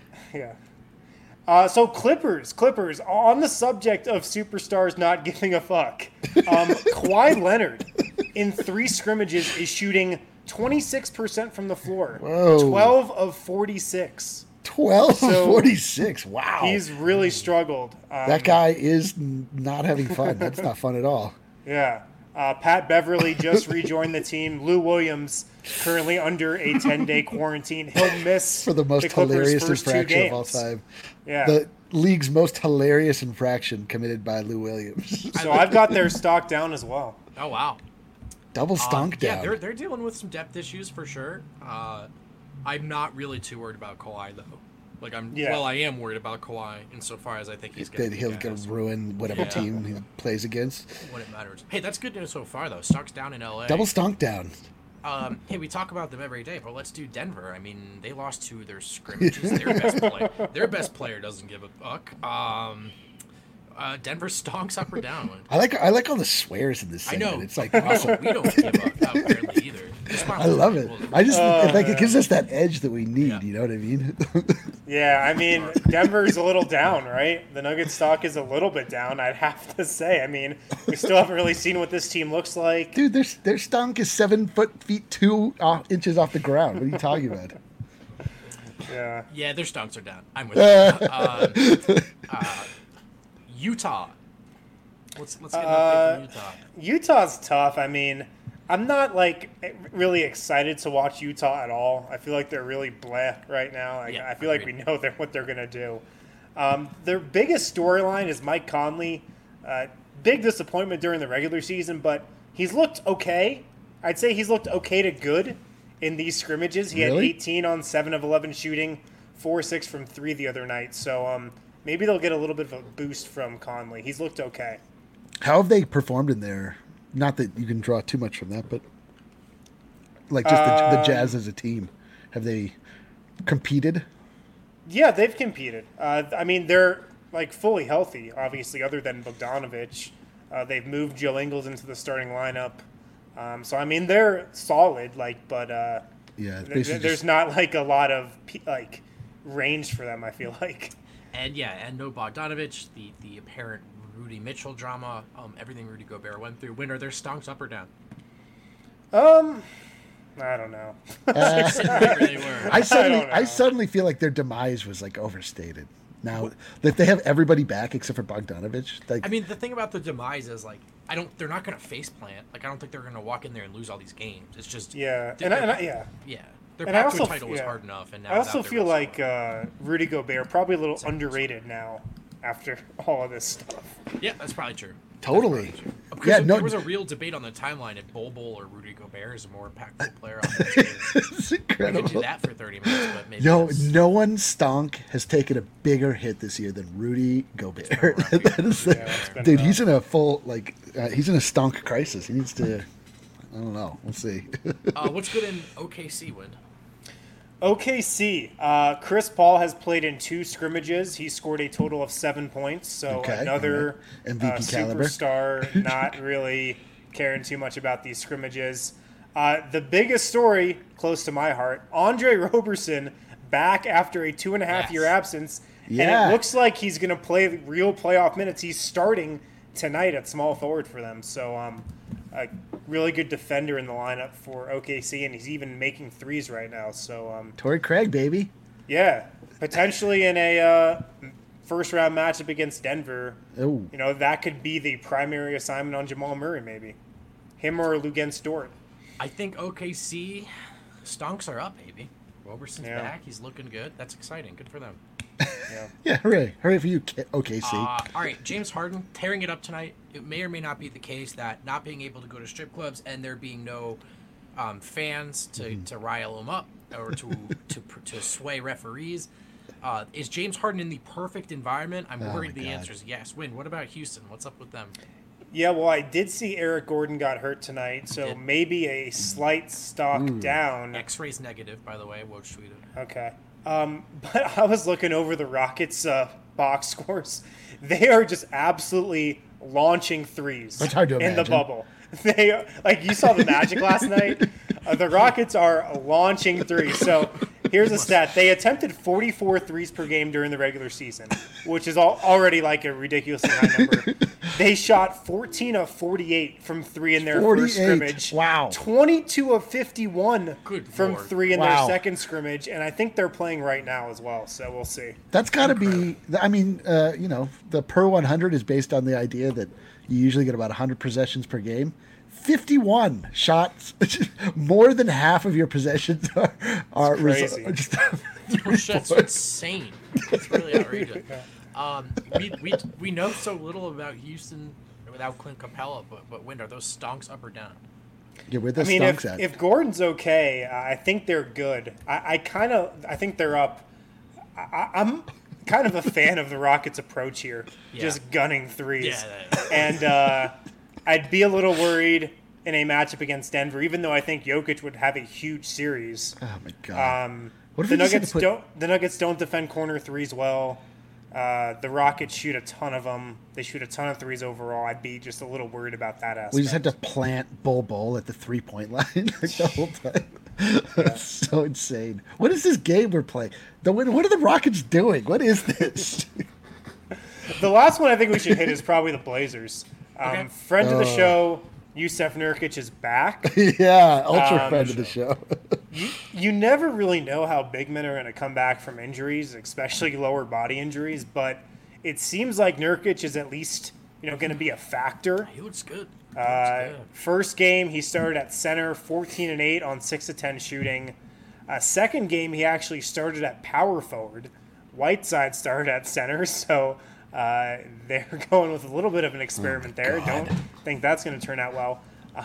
A: Yeah. So Clippers. On the subject of superstars not giving a fuck, Kawhi Leonard in 3 scrimmages is shooting 26% from the floor.
D: Whoa.
A: 12 of 46.
D: 12 of 46. Wow.
A: He's really struggled.
D: That guy is not having fun. That's not fun at all.
A: Yeah. Pat Beverly just rejoined the team. Lou Williams currently under a 10-day quarantine. He'll miss
D: for the most hilarious infraction of all time.
A: Yeah.
D: The league's most hilarious infraction committed by Lou Williams.
A: So I've got their stock down as well.
C: Oh, wow.
D: Double stonk down.
C: Yeah, they're dealing with some depth issues for sure. I'm not really too worried about Kawhi, though. I am worried about Kawhi insofar as I think he's going
D: to ruin whatever team he plays against.
C: When it matters. Hey, that's good news so far, though. Stock's down in L.A.
D: Double stonk down.
C: Hey, we talk about them every day, but let's do Denver. I mean, they lost 2 of their scrimmages. Their best player doesn't give a fuck. Denver stonks up or down.
D: I like all the swears in this segment.
C: I know.
D: It's
C: awesome. We don't give a apparently either.
D: I love it. I just it gives us that edge that we need. Yeah. You know what I mean?
A: Yeah, I mean, Denver's a little down, right? The Nuggets stock is a little bit down, I'd have to say. I mean, we still haven't really seen what this team looks like.
D: Dude, their stonk is 7 feet 2 inches off the ground. What are you talking about?
A: Yeah.
C: Yeah, their stonks are down. I'm with you. Utah. Let's get an update from Utah.
A: Utah's tough. I mean, I'm not really excited to watch Utah at all. I feel like they're really bleh right now. I feel like we know what they're gonna do. Their biggest storyline is Mike Conley. Big disappointment during the regular season, but he's looked okay. I'd say he's looked okay to good in these scrimmages. He had 18 on 7 of 11 shooting, 4-6 from 3 the other night. So maybe they'll get a little bit of a boost from Conley. He's looked okay.
D: How have they performed in there? Not that you can draw too much from that, but the Jazz as a team. Have they competed?
A: Yeah, they've competed. I mean, they're fully healthy, obviously, other than Bogdanovich. They've moved Joe Ingles into the starting lineup. So, I mean, they're solid, but there's not a lot of range for them, I feel like.
C: And no Bogdanovich, the apparent Rudy Mitchell drama, everything Rudy Gobert went through. When are their stonks up or down?
A: I don't know.
D: I suddenly feel like their demise was overstated. Now that they have everybody back except for Bogdanovich,
C: I mean, the thing about the demise is they're not going to face plant. I don't think they're going to walk in there and lose all these games. It's just
A: Their
C: path to a title was hard enough, and now
A: I also feel like Rudy Gobert probably a little underrated now after all of this stuff.
C: Yeah, that's probably true.
D: Totally.
C: There was a real debate on the timeline if Bol Bol or Rudy Gobert is a more impactful player on this team.
D: It's incredible.
C: We could do that for 30 minutes, but maybe
D: no one stonk has taken a bigger hit this year than Rudy Gobert. Dude, he's in a full he's in a stonk crisis. He needs to. I don't know. We'll see.
C: What's good in OKC, Wind?
A: OKC. Chris Paul has played in 2 scrimmages. He scored a total of 7 points. So another
D: right. MVP caliber.
A: Superstar. Not really caring too much about these scrimmages. The biggest story, close to my heart, Andre Roberson back after a 2.5-year absence.
D: Yeah.
A: And it looks like he's going to play real playoff minutes. He's starting tonight at small forward for them. So a really good defender in the lineup for OKC, and he's even making threes right now. So
D: Torrey Craig, baby.
A: Yeah, potentially in a first-round matchup against Denver.
D: Ooh.
A: You know, that could be the primary assignment on Jamal Murray, maybe. Him or Luguentz Dort.
C: I think OKC stonks are up, baby. Roberson's back. He's looking good. That's exciting. Good for them.
D: Yeah, hooray. Hooray for you, OKC.
C: All right, James Harden tearing it up tonight. It may or may not be the case that not being able to go to strip clubs and there being no fans to rile him up or to sway referees. Is James Harden in the perfect environment? I'm worried the answer is yes. Win. What about Houston? What's up with them?
A: Yeah, well, I did see Eric Gordon got hurt tonight, so maybe a slight stock down.
C: X-rays negative, by the way. Woj tweeted.
A: Okay. But I was looking over the Rockets' box scores. They are just absolutely launching threes
D: That's hard to
A: in the
D: imagine.
A: bubble. They you saw the Magic last night. The Rockets are launching threes. So here's a stat: they attempted 44 threes per game during the regular season, which is already like a ridiculously high number. They shot 14 of 48 from 3 in their first scrimmage.
D: Wow.
A: 22 of 51 from
C: Lord.
A: 3 in their second scrimmage, and I think they're playing right now as well. So we'll see.
D: That's got to be. I mean, the per 100 is based on the idea that you usually get about 100 possessions per game. 51 shots, more than half of your possessions are
A: crazy.
C: That's insane. It's really outrageous. We know so little about Houston without Clint Capella, but Wind, are those stonks up or down?
D: Yeah, where the
A: I mean,
D: stonks at?
A: if Gordon's okay, I think they're good. I think they're up. I'm kind of a fan of the Rockets' approach here, just gunning threes. And I'd be a little worried in a matchup against Denver, even though I think Jokic would have a huge series.
D: Oh my god!
A: The Nuggets don't defend corner threes well. The Rockets shoot a ton of them. They shoot a ton of threes overall. I'd be just a little worried about that aspect.
D: We just had to plant Bol at the 3-point line the whole time. That's so insane. What is this game we're playing? What are the Rockets doing? What is this?
A: The last one I think we should hit is probably the Blazers. Friend of the show, Yusef Nurkic is back.
D: Yeah, ultra friend of the show.
A: You never really know how big men are going to come back from injuries, especially lower body injuries, but it seems like Nurkic is at least going to be a factor.
C: He looks good.
A: First game, he started at center, 14 and 8 on 6 of 10 shooting. Second game, he actually started at power forward. Whiteside started at center, so they're going with a little bit of an experiment there. Don't think that's going to turn out well.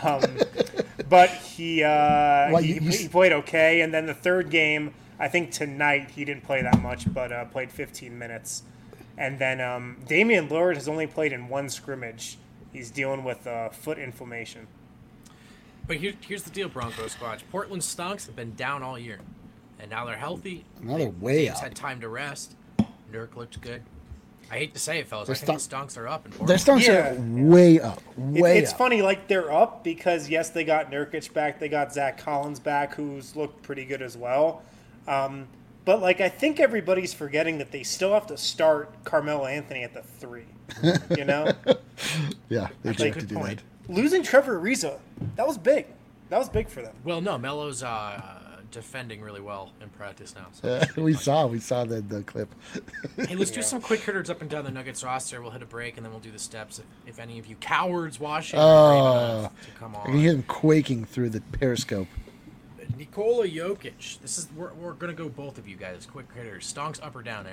A: But he played okay. And then the third game, I think tonight he didn't play that much, but played 15 minutes. And then Damian Lillard has only played in 1 scrimmage. He's dealing with foot inflammation.
C: But here's the deal, Broncos squad. Portland Stonks have been down all year, and now they're healthy.
D: Now they're way up.
C: Had time to rest. Nurk looked good. I hate to say it, fellas. I think the Stonks are up in Portland.
D: Their Stonks are way up.
A: It's funny, like they're up because, yes, they got Nurkic back. They got Zach Collins back, who's looked pretty good as well. But, I think everybody's forgetting that they still have to start Carmelo Anthony at the 3,
D: Yeah, they have to do that.
A: Losing Trevor Ariza, that was big. That was big for them.
C: Well, no, Melo's defending really well in practice now. So
D: we saw the clip.
C: Hey, let's do some quick hitters up and down the Nuggets roster. We'll hit a break, and then we'll do the steps. If any of you cowards watching are brave enough to come on.
D: I can hear them quaking through the periscope.
C: Nikola Jokic. We're gonna go both of you guys. Quick hitters. Stonks up or down,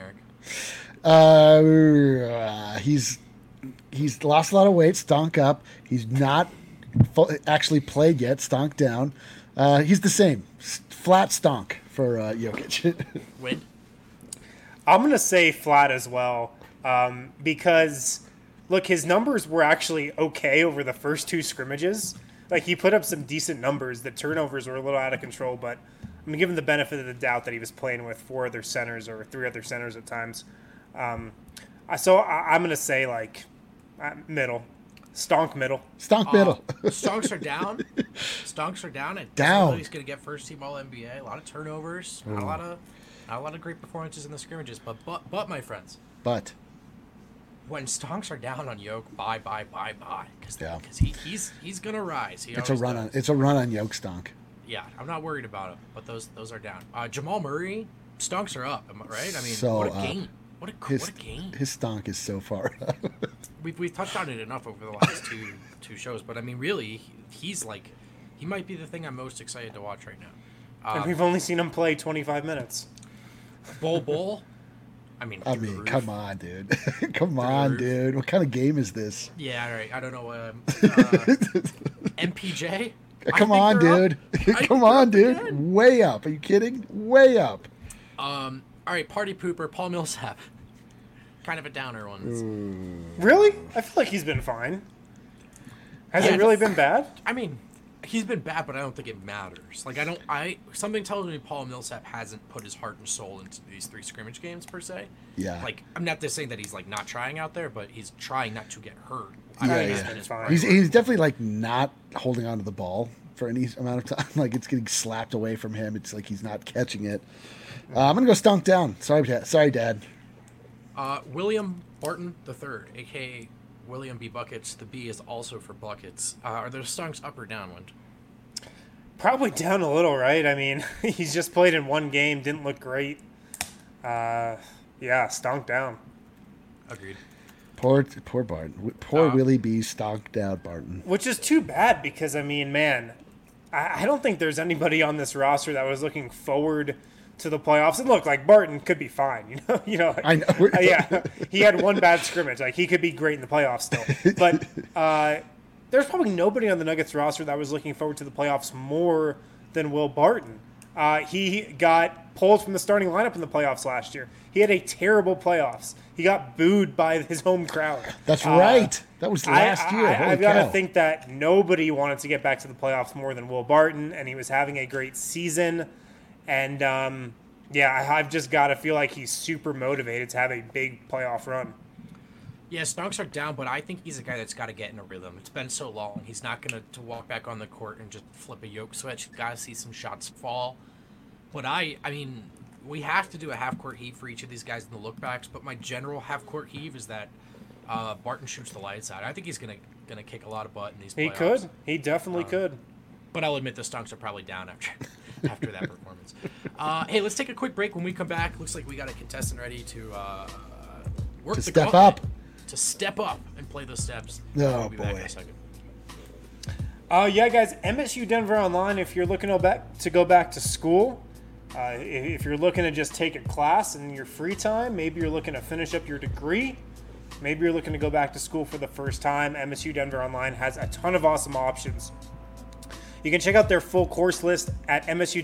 C: Eric?
D: He's lost a lot of weight. Stonk up. He's not actually played yet. Stonk down. He's the same. Flat stonk for Jokic.
C: Win.
A: I'm gonna say flat as well, because look, his numbers were actually okay over the first 2 scrimmages, Like, he put up some decent numbers. The turnovers were a little out of control, but I'm given the benefit of the doubt that he was playing with 4 other centers or 3 other centers at times. So I'm going to say, like, middle. Stonk middle.
D: Stonk middle.
C: Stonks are down. Stonks are down. He's going to get first team All NBA. A lot of turnovers. Not a lot of great performances in the scrimmages. But my friends.
D: But
C: when Stonks are down on Yoke, bye. Because he's going to rise.
D: It's a run on Yoke Stonk.
C: Yeah, I'm not worried about him. But those are down. Jamal Murray, Stonks are up. Am I right? I mean,
D: so,
C: what a game. What a game.
D: His stonk is so far up.
C: We've touched on it enough over the last two shows, but I mean, really, he might be the thing I'm most excited to watch right now.
A: And we've only seen him play 25 minutes.
C: Bull. I mean,
D: come on, dude. Come on, dude. What kind of game is this?
C: Yeah, all right. I don't know. MPJ?
D: Come on, dude. Come on, dude. Again. Way up. Are you kidding? Way up.
C: All right, party pooper, Paul Millsap. Kind of a downer one.
A: Really? I feel like he's been fine. Has it really been bad?
C: I mean, he's been bad, but I don't think it matters. Like, something tells me Paul Millsap hasn't put his heart and soul into these 3 scrimmage games, per se.
D: Yeah.
C: Like, I'm not just saying that he's, like, not trying out there, but he's trying not to get hurt.
D: He's definitely, like, not holding on to the ball for any amount of time. Like, it's getting slapped away from him. It's like he's not catching it. I'm going to go stonk down. Sorry, Dad.
C: William Barton III, a.k.a. William B. Buckets. The B is also for buckets. Are those stonks up or downwind?
A: Probably down a little, right? I mean, he's just played in 1 game, didn't look great. Stonk down.
C: Agreed.
D: Poor Barton. Poor Willie B. Stonked down Barton.
A: Which is too bad because, I mean, man, I don't think there's anybody on this roster that was looking forward to the playoffs. And look, like, Barton could be fine, you know. Like,
D: I know.
A: Yeah, he had 1 bad scrimmage. Like, he could be great in the playoffs still. But there's probably nobody on the Nuggets roster that was looking forward to the playoffs more than Will Barton. He got pulled from the starting lineup in the playoffs last year. He had a terrible playoffs. He got booed by his home crowd.
D: That's right. That was last year.
A: I've got to think that nobody wanted to get back to the playoffs more than Will Barton, and he was having a great season. And, I've just got to feel like he's super motivated to have a big playoff run.
C: Yeah, stonks are down, but I think he's a guy that's got to get in a rhythm. It's been so long. He's not going to walk back on the court and just flip a yoke switch. He's got to see some shots fall. But I mean, we have to do a half-court heave for each of these guys in the look-backs, but my general half-court heave is that Barton shoots the lights out. I think he's gonna kick a lot of butt in these playoffs.
A: He could. He definitely could.
C: But I'll admit the stonks are probably down after that performance. Hey, let's take a quick break. When we come back, looks like we got a contestant ready to work
D: to
C: the
D: step up.
C: To step up and play those steps.
D: Oh,
C: we'll be back in a second.
A: Guys, MSU Denver Online, if you're looking to go back to school, if you're looking to just take a class in your free time, maybe you're looking to finish up your degree, maybe you're looking to go back to school for the first time, MSU Denver Online has a ton of awesome options. You can check out their full course list at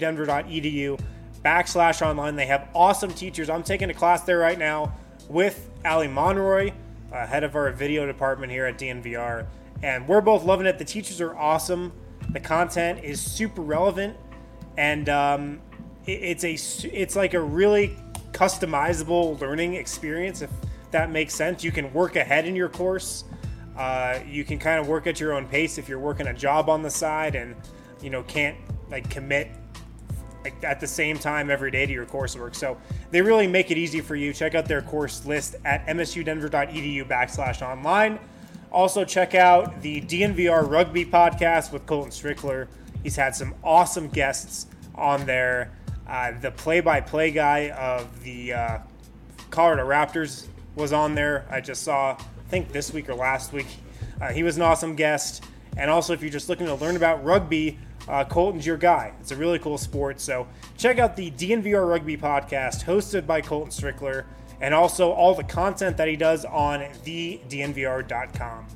A: msudenver.edu/online. They have awesome teachers. I'm taking a class there right now with Ali Monroy, head of our video department here at DNVR. And we're both loving it. The teachers are awesome. The content is super relevant. And it's like a really customizable learning experience, if that makes sense. You can work ahead in your course. You can kind of work at your own pace if you're working a job on the side and, can't commit at the same time every day to your coursework. So they really make it easy for you. Check out their course list at msudenver.edu/online. Also check out the DNVR Rugby podcast with Colton Strickler. He's had some awesome guests on there. The play-by-play guy of the Colorado Raptors was on there. I just saw, I think this week or last week. He was an awesome guest. And also, if you're just looking to learn about rugby, Colton's your guy. It's a really cool sport. So check out the DNVR Rugby podcast hosted by Colton Strickler, and also all the content that he does on thednvr.com.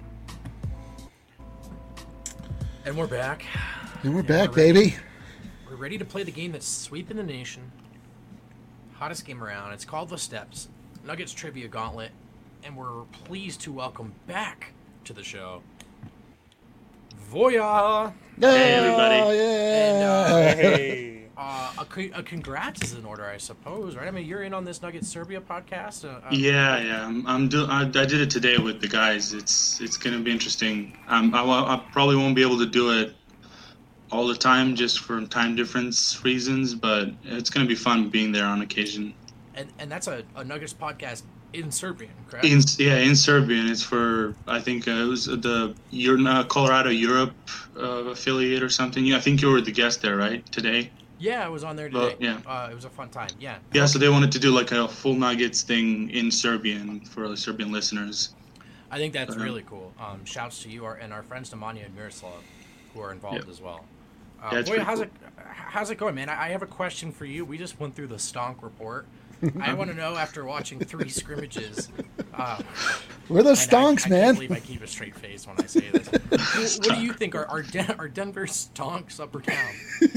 C: And we're back.
D: Baby.
C: We're ready to play the game that's sweeping the nation. Hottest game around. It's called The Steps, Nuggets Trivia Gauntlet. And we're pleased to welcome back to the show Voya.
E: Hey, everybody.
D: Yeah.
A: Hey.
C: A congrats is in order, I suppose, right? I mean, you're in on this Nuggets Serbia podcast.
E: Yeah. I did it today with the guys. It's gonna be interesting. I probably won't be able to do it all the time just for time difference reasons, but it's gonna be fun being there on occasion.
C: And that's a Nuggets podcast in Serbian, correct?
E: In Serbian. It's for, I think it was the Colorado Europe affiliate or something. I think you were the guest there, right, today?
C: Yeah, I was on there today.
E: Yeah.
C: It was a fun time. Yeah.
E: Yeah, so they wanted to do like a full Nuggets thing in Serbian for the Serbian listeners.
C: I think that's really cool. Shouts to you and our friends Nemanja and Miroslav, who are involved as well. Boy, how's it going, man? I have a question for you. We just went through the Stonk report. I want to know, after watching 3 scrimmages,
D: We're the Stonks,
C: I
D: man.
C: can't believe I keep a straight face when I say this. What do you think? Are Denver Stonks up or down?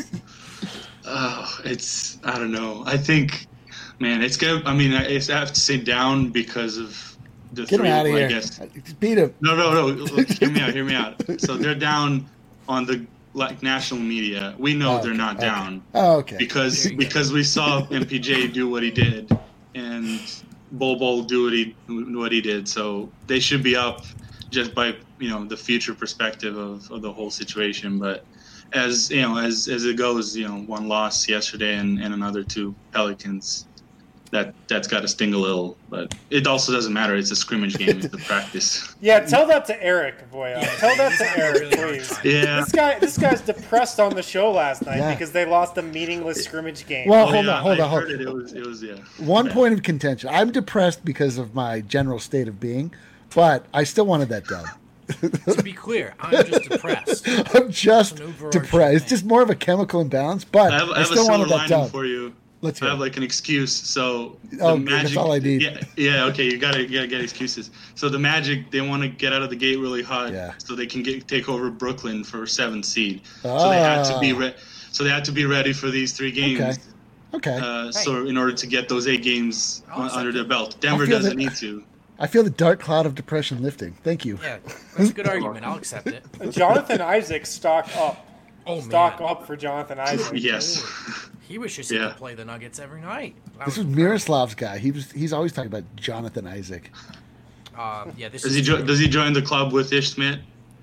E: I don't know. I think, man, it's good. I mean, I have to say down because of the
D: Get
E: 3,
D: him out of
E: I
D: here.
E: guess.
D: Beat him.
E: No. Hear me out. So they're down on the national media. We know they're not down.
D: Oh, okay.
E: Because we saw MPJ do what he did and Bol do what he did. So they should be up just by the future perspective of the whole situation. But as it goes, 1 loss yesterday and another 2 Pelicans. That's got to sting a little, but it also doesn't matter. It's a scrimmage game. It's a practice.
A: Yeah, tell that to Eric, Voya. Tell that to Eric, please.
E: Yeah.
A: This guy's depressed on the show last night
D: Yeah.
A: because they lost a meaningless scrimmage game.
D: Well,
E: I
D: hold on.
E: heard it. It was yeah.
D: One point of contention. I'm depressed because of my general state of being, but I still wanted that done.
C: To be clear, I'm just depressed.
D: I'm just
C: It's an overarching
D: depressed. It's
C: thing.
D: just more of a chemical imbalance, but
E: I have a
D: still
E: silver
D: wanted that
E: lining
D: done.
E: for you.
D: Let's
E: I
D: hear
E: have
D: it.
E: like an excuse. So
D: Oh, good. That's all I need.
E: Yeah. Okay, you gotta get excuses. So the Magic, they want to get out of the gate really hot,
D: Yeah.
E: so they can take over Brooklyn for 7th seed. So they had to be So they had to be ready for these 3 games.
D: Okay.
E: So in order to get those 8 games
C: I'll
E: under their
C: accept
E: belt, Denver
D: feel
E: doesn't
D: that-
E: need to.
D: I feel the dark cloud of depression lifting. Thank you.
C: Yeah, that's a good argument. I'll accept it.
A: Jonathan Isaac stock up.
C: Oh,
A: Stock
C: man.
A: up for Jonathan Isaac.
E: Yes.
C: He wishes he
E: Yeah.
C: could play the Nuggets every night. That
D: This was
C: was
D: Miroslav's guy. He's always talking about Jonathan Isaac.
C: yeah, this
E: Does
C: is
E: does he join the club with Ish Smith?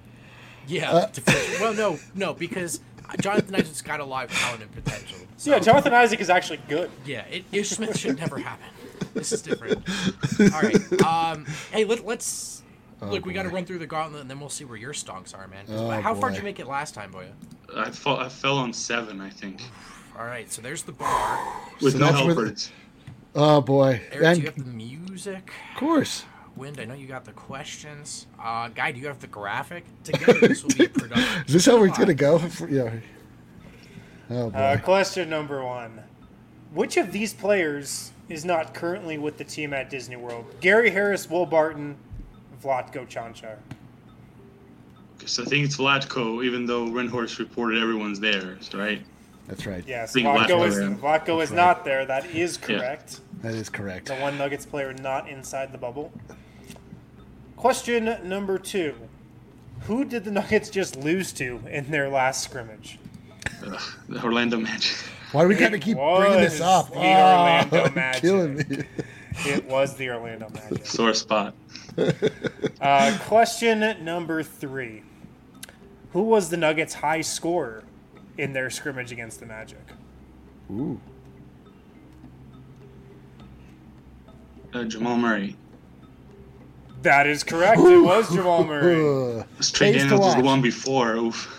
C: Yeah. Well, no, because Jonathan Isaac's got a lot of talent and potential. So,
A: Yeah, Jonathan Isaac is actually good.
C: yeah, Ish Smith should never happen. This is different. All right. Hey, let's look. We got to run through the gauntlet, and then we'll see where your stonks are, man. How far
D: boy.
C: did you make it last time, Boya?
E: I fell on 7, I think,
C: All right, so there's the bar.
E: with
D: So
E: no
D: that's where the-
E: helpers.
D: Oh boy.
C: Eric,
D: And
C: do you have the music?
D: of course.
C: Wind, I know you got the questions. Guy, do you have the graphic? Together, this will be productive.
D: Is this how we're
C: Come
D: gonna
C: on.
D: go? Yeah. Oh boy.
A: Question number 1. Which of these players is not currently with the team at Disney World? Gary Harris, Will Barton, Vlatko Čančar.
E: So I think it's Vlatko, even though Rinhorst reported everyone's there, right?
D: That's right.
A: Yes,
E: think
A: Vlatko
E: Vlatko,
A: is not there. That is correct.
D: That is correct.
A: The one Nuggets player not inside the bubble. Question number 2. Who did the Nuggets just lose to in their last scrimmage?
E: The Orlando Magic.
D: Why do we gotta keep bringing this
A: was
D: up?
A: the Orlando
D: you're
A: Magic.
D: killing me.
A: It was the Orlando Magic.
E: Sore spot.
A: Question number 3. Who was the Nuggets' high scorer in their scrimmage against the Magic?
D: Ooh.
E: Jamal Murray.
A: That is correct. It was Jamal Murray.
E: Trey
D: Pays to
E: Daniels was the
D: watch.
E: one before. Oof.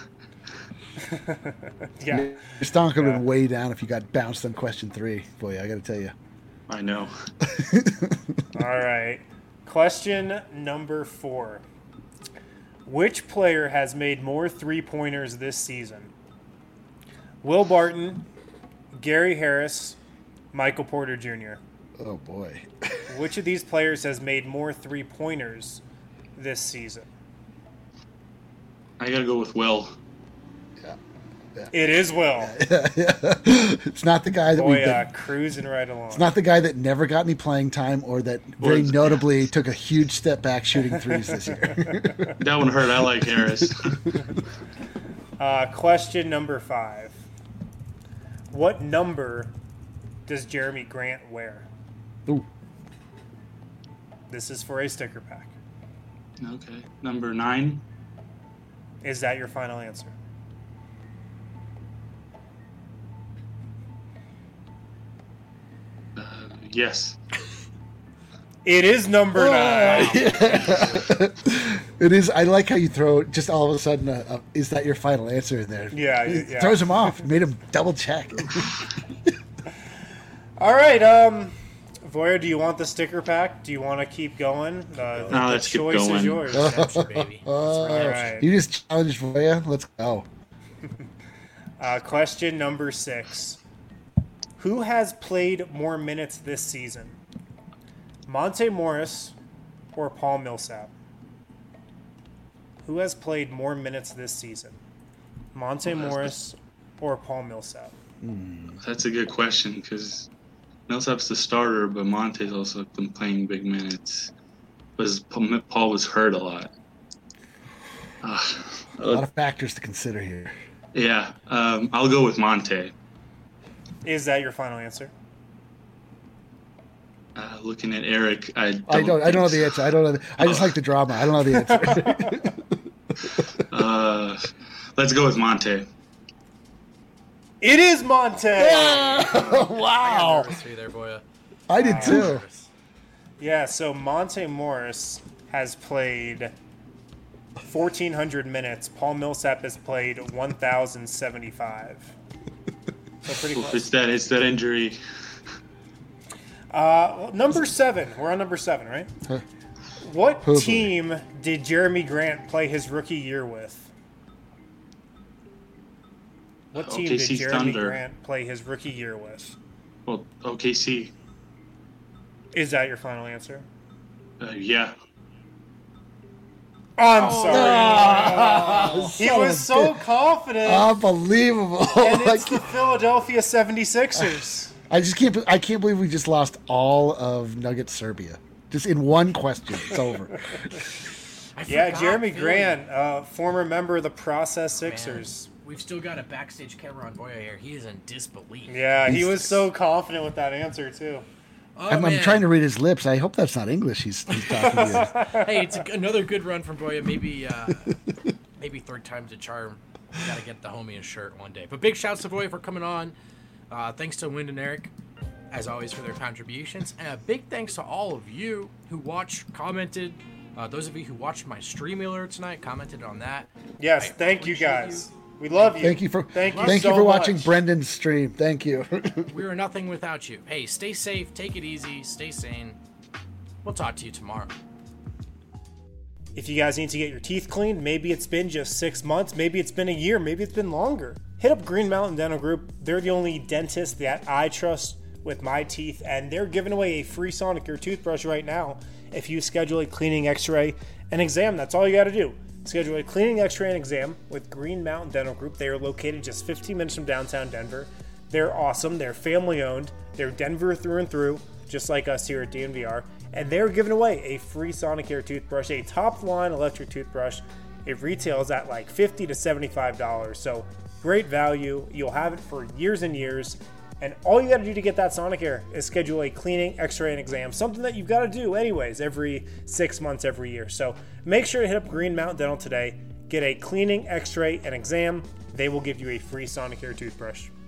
A: Yeah.
D: Your stonk would have been
A: Yeah.
D: way down if you got bounced on question 3. Boy, I gotta tell you.
E: I know.
A: All right. Question number 4. Which player has made more 3-pointers this season? Will Barton, Gary Harris, Michael Porter Jr.
D: Oh boy.
A: Which of these players has made more 3-pointers this season?
E: I gotta go with Will.
A: It is Will.
D: It's not the guy that
A: Boy, cruising right along.
D: It's not the guy that never got any playing time or that very notably took a huge step back shooting threes this year.
E: That one hurt. I like Harris.
A: Question number 5. What number does Jeremy Grant wear?
D: Ooh.
A: This is for a sticker pack.
E: Okay. Number 9.
A: Is that your final answer?
E: Yes.
A: It is number 9.
D: It is. I like how you throw just all of a sudden. Is that your final answer in there?
A: Yeah,
D: It
A: yeah.
D: throws him off. Made him double check.
A: All right, Voya, do you want the sticker pack? Do you want to keep going? The
E: let's keep
A: choice
E: going.
A: is yours.
C: Redemption, baby.
A: All right.
D: You just challenged Voya. Let's go.
A: Question number 6. Who has played more minutes this season? Monte Morris or Paul Millsap? Who has played more minutes this season? Monte Morris or Paul Millsap?
E: That's a good question because Millsap's the starter, but Monte's also been playing big minutes. Paul was hurt a lot.
D: A lot of factors to consider here.
E: Yeah, I'll go with Monte.
A: Is that your final answer?
E: Looking at Eric, I don't
D: know the answer. I don't know. I just like the drama. I don't know the answer.
E: Let's go with Monte.
A: It is Monte.
D: Wow.
C: Nervous for you there, Voya.
D: I did too.
A: Yeah, so Monte Morris has played 1,400 minutes. Paul Millsap has played 1,075. So pretty close.
E: It's that injury.
A: Number 7. We're on number 7, right? What team did Jeremy Grant play his rookie year with? What team did
E: OKC
A: Jeremy
E: Thunder.
A: Grant play his rookie year with?
E: Well, OKC.
A: Is that your final answer?
E: Yeah.
A: I'm sorry. He was so confident.
D: Unbelievable.
A: And it's the Philadelphia 76ers.
D: I can't believe we just lost all of Nugget Serbia. Just in one question. It's over.
A: Yeah,
C: forgot
A: Jeremy
C: Philly.
A: Grant, former member of the Process Sixers.
C: Man, we've still got a backstage camera on Voya here. He is in disbelief.
A: Yeah, he was so confident with that answer, too.
C: Oh,
D: I'm
C: man.
D: trying to read his lips. I hope that's not English he's talking to.
C: Hey, it's another good run from Voya. Maybe third time's a charm. Got to get the homie a shirt one day. But big shouts to Voya for coming on. Thanks to Wind and Eric, as always, for their contributions. And a big thanks to all of you who watched, commented. Those of you who watched my stream earlier tonight, commented on that.
A: Yes, thank you guys. We love you.
D: Thank you for
A: so
D: watching
A: much.
D: Brendan's stream. Thank you.
C: We are nothing without you. Hey, stay safe, take it easy, stay sane. We'll talk to you tomorrow.
A: If you guys need to get your teeth cleaned, maybe it's been just 6 months, maybe it's been a year, maybe it's been longer. Hit up Green Mountain Dental Group. They're the only dentist that I trust with my teeth, and they're giving away a free Sonicare toothbrush right now if you schedule a cleaning, x-ray, and exam. That's all you got to do. Schedule a cleaning, x-ray, and exam with Green Mountain Dental Group. They are located just 15 minutes from downtown Denver. They're awesome. They're family-owned. They're Denver through and through, just like us here at DNVR. And they're giving away a free Sonicare toothbrush, a top-line electric toothbrush. It retails at like $50 to $75. So great value. You'll have it for years and years. And all you got to do to get that Sonicare is schedule a cleaning, x-ray, and exam, something that you've got to do anyways every 6 months, every year. So make sure to hit up Green Mountain Dental today. Get a cleaning, x-ray, and exam. They will give you a free Sonicare toothbrush.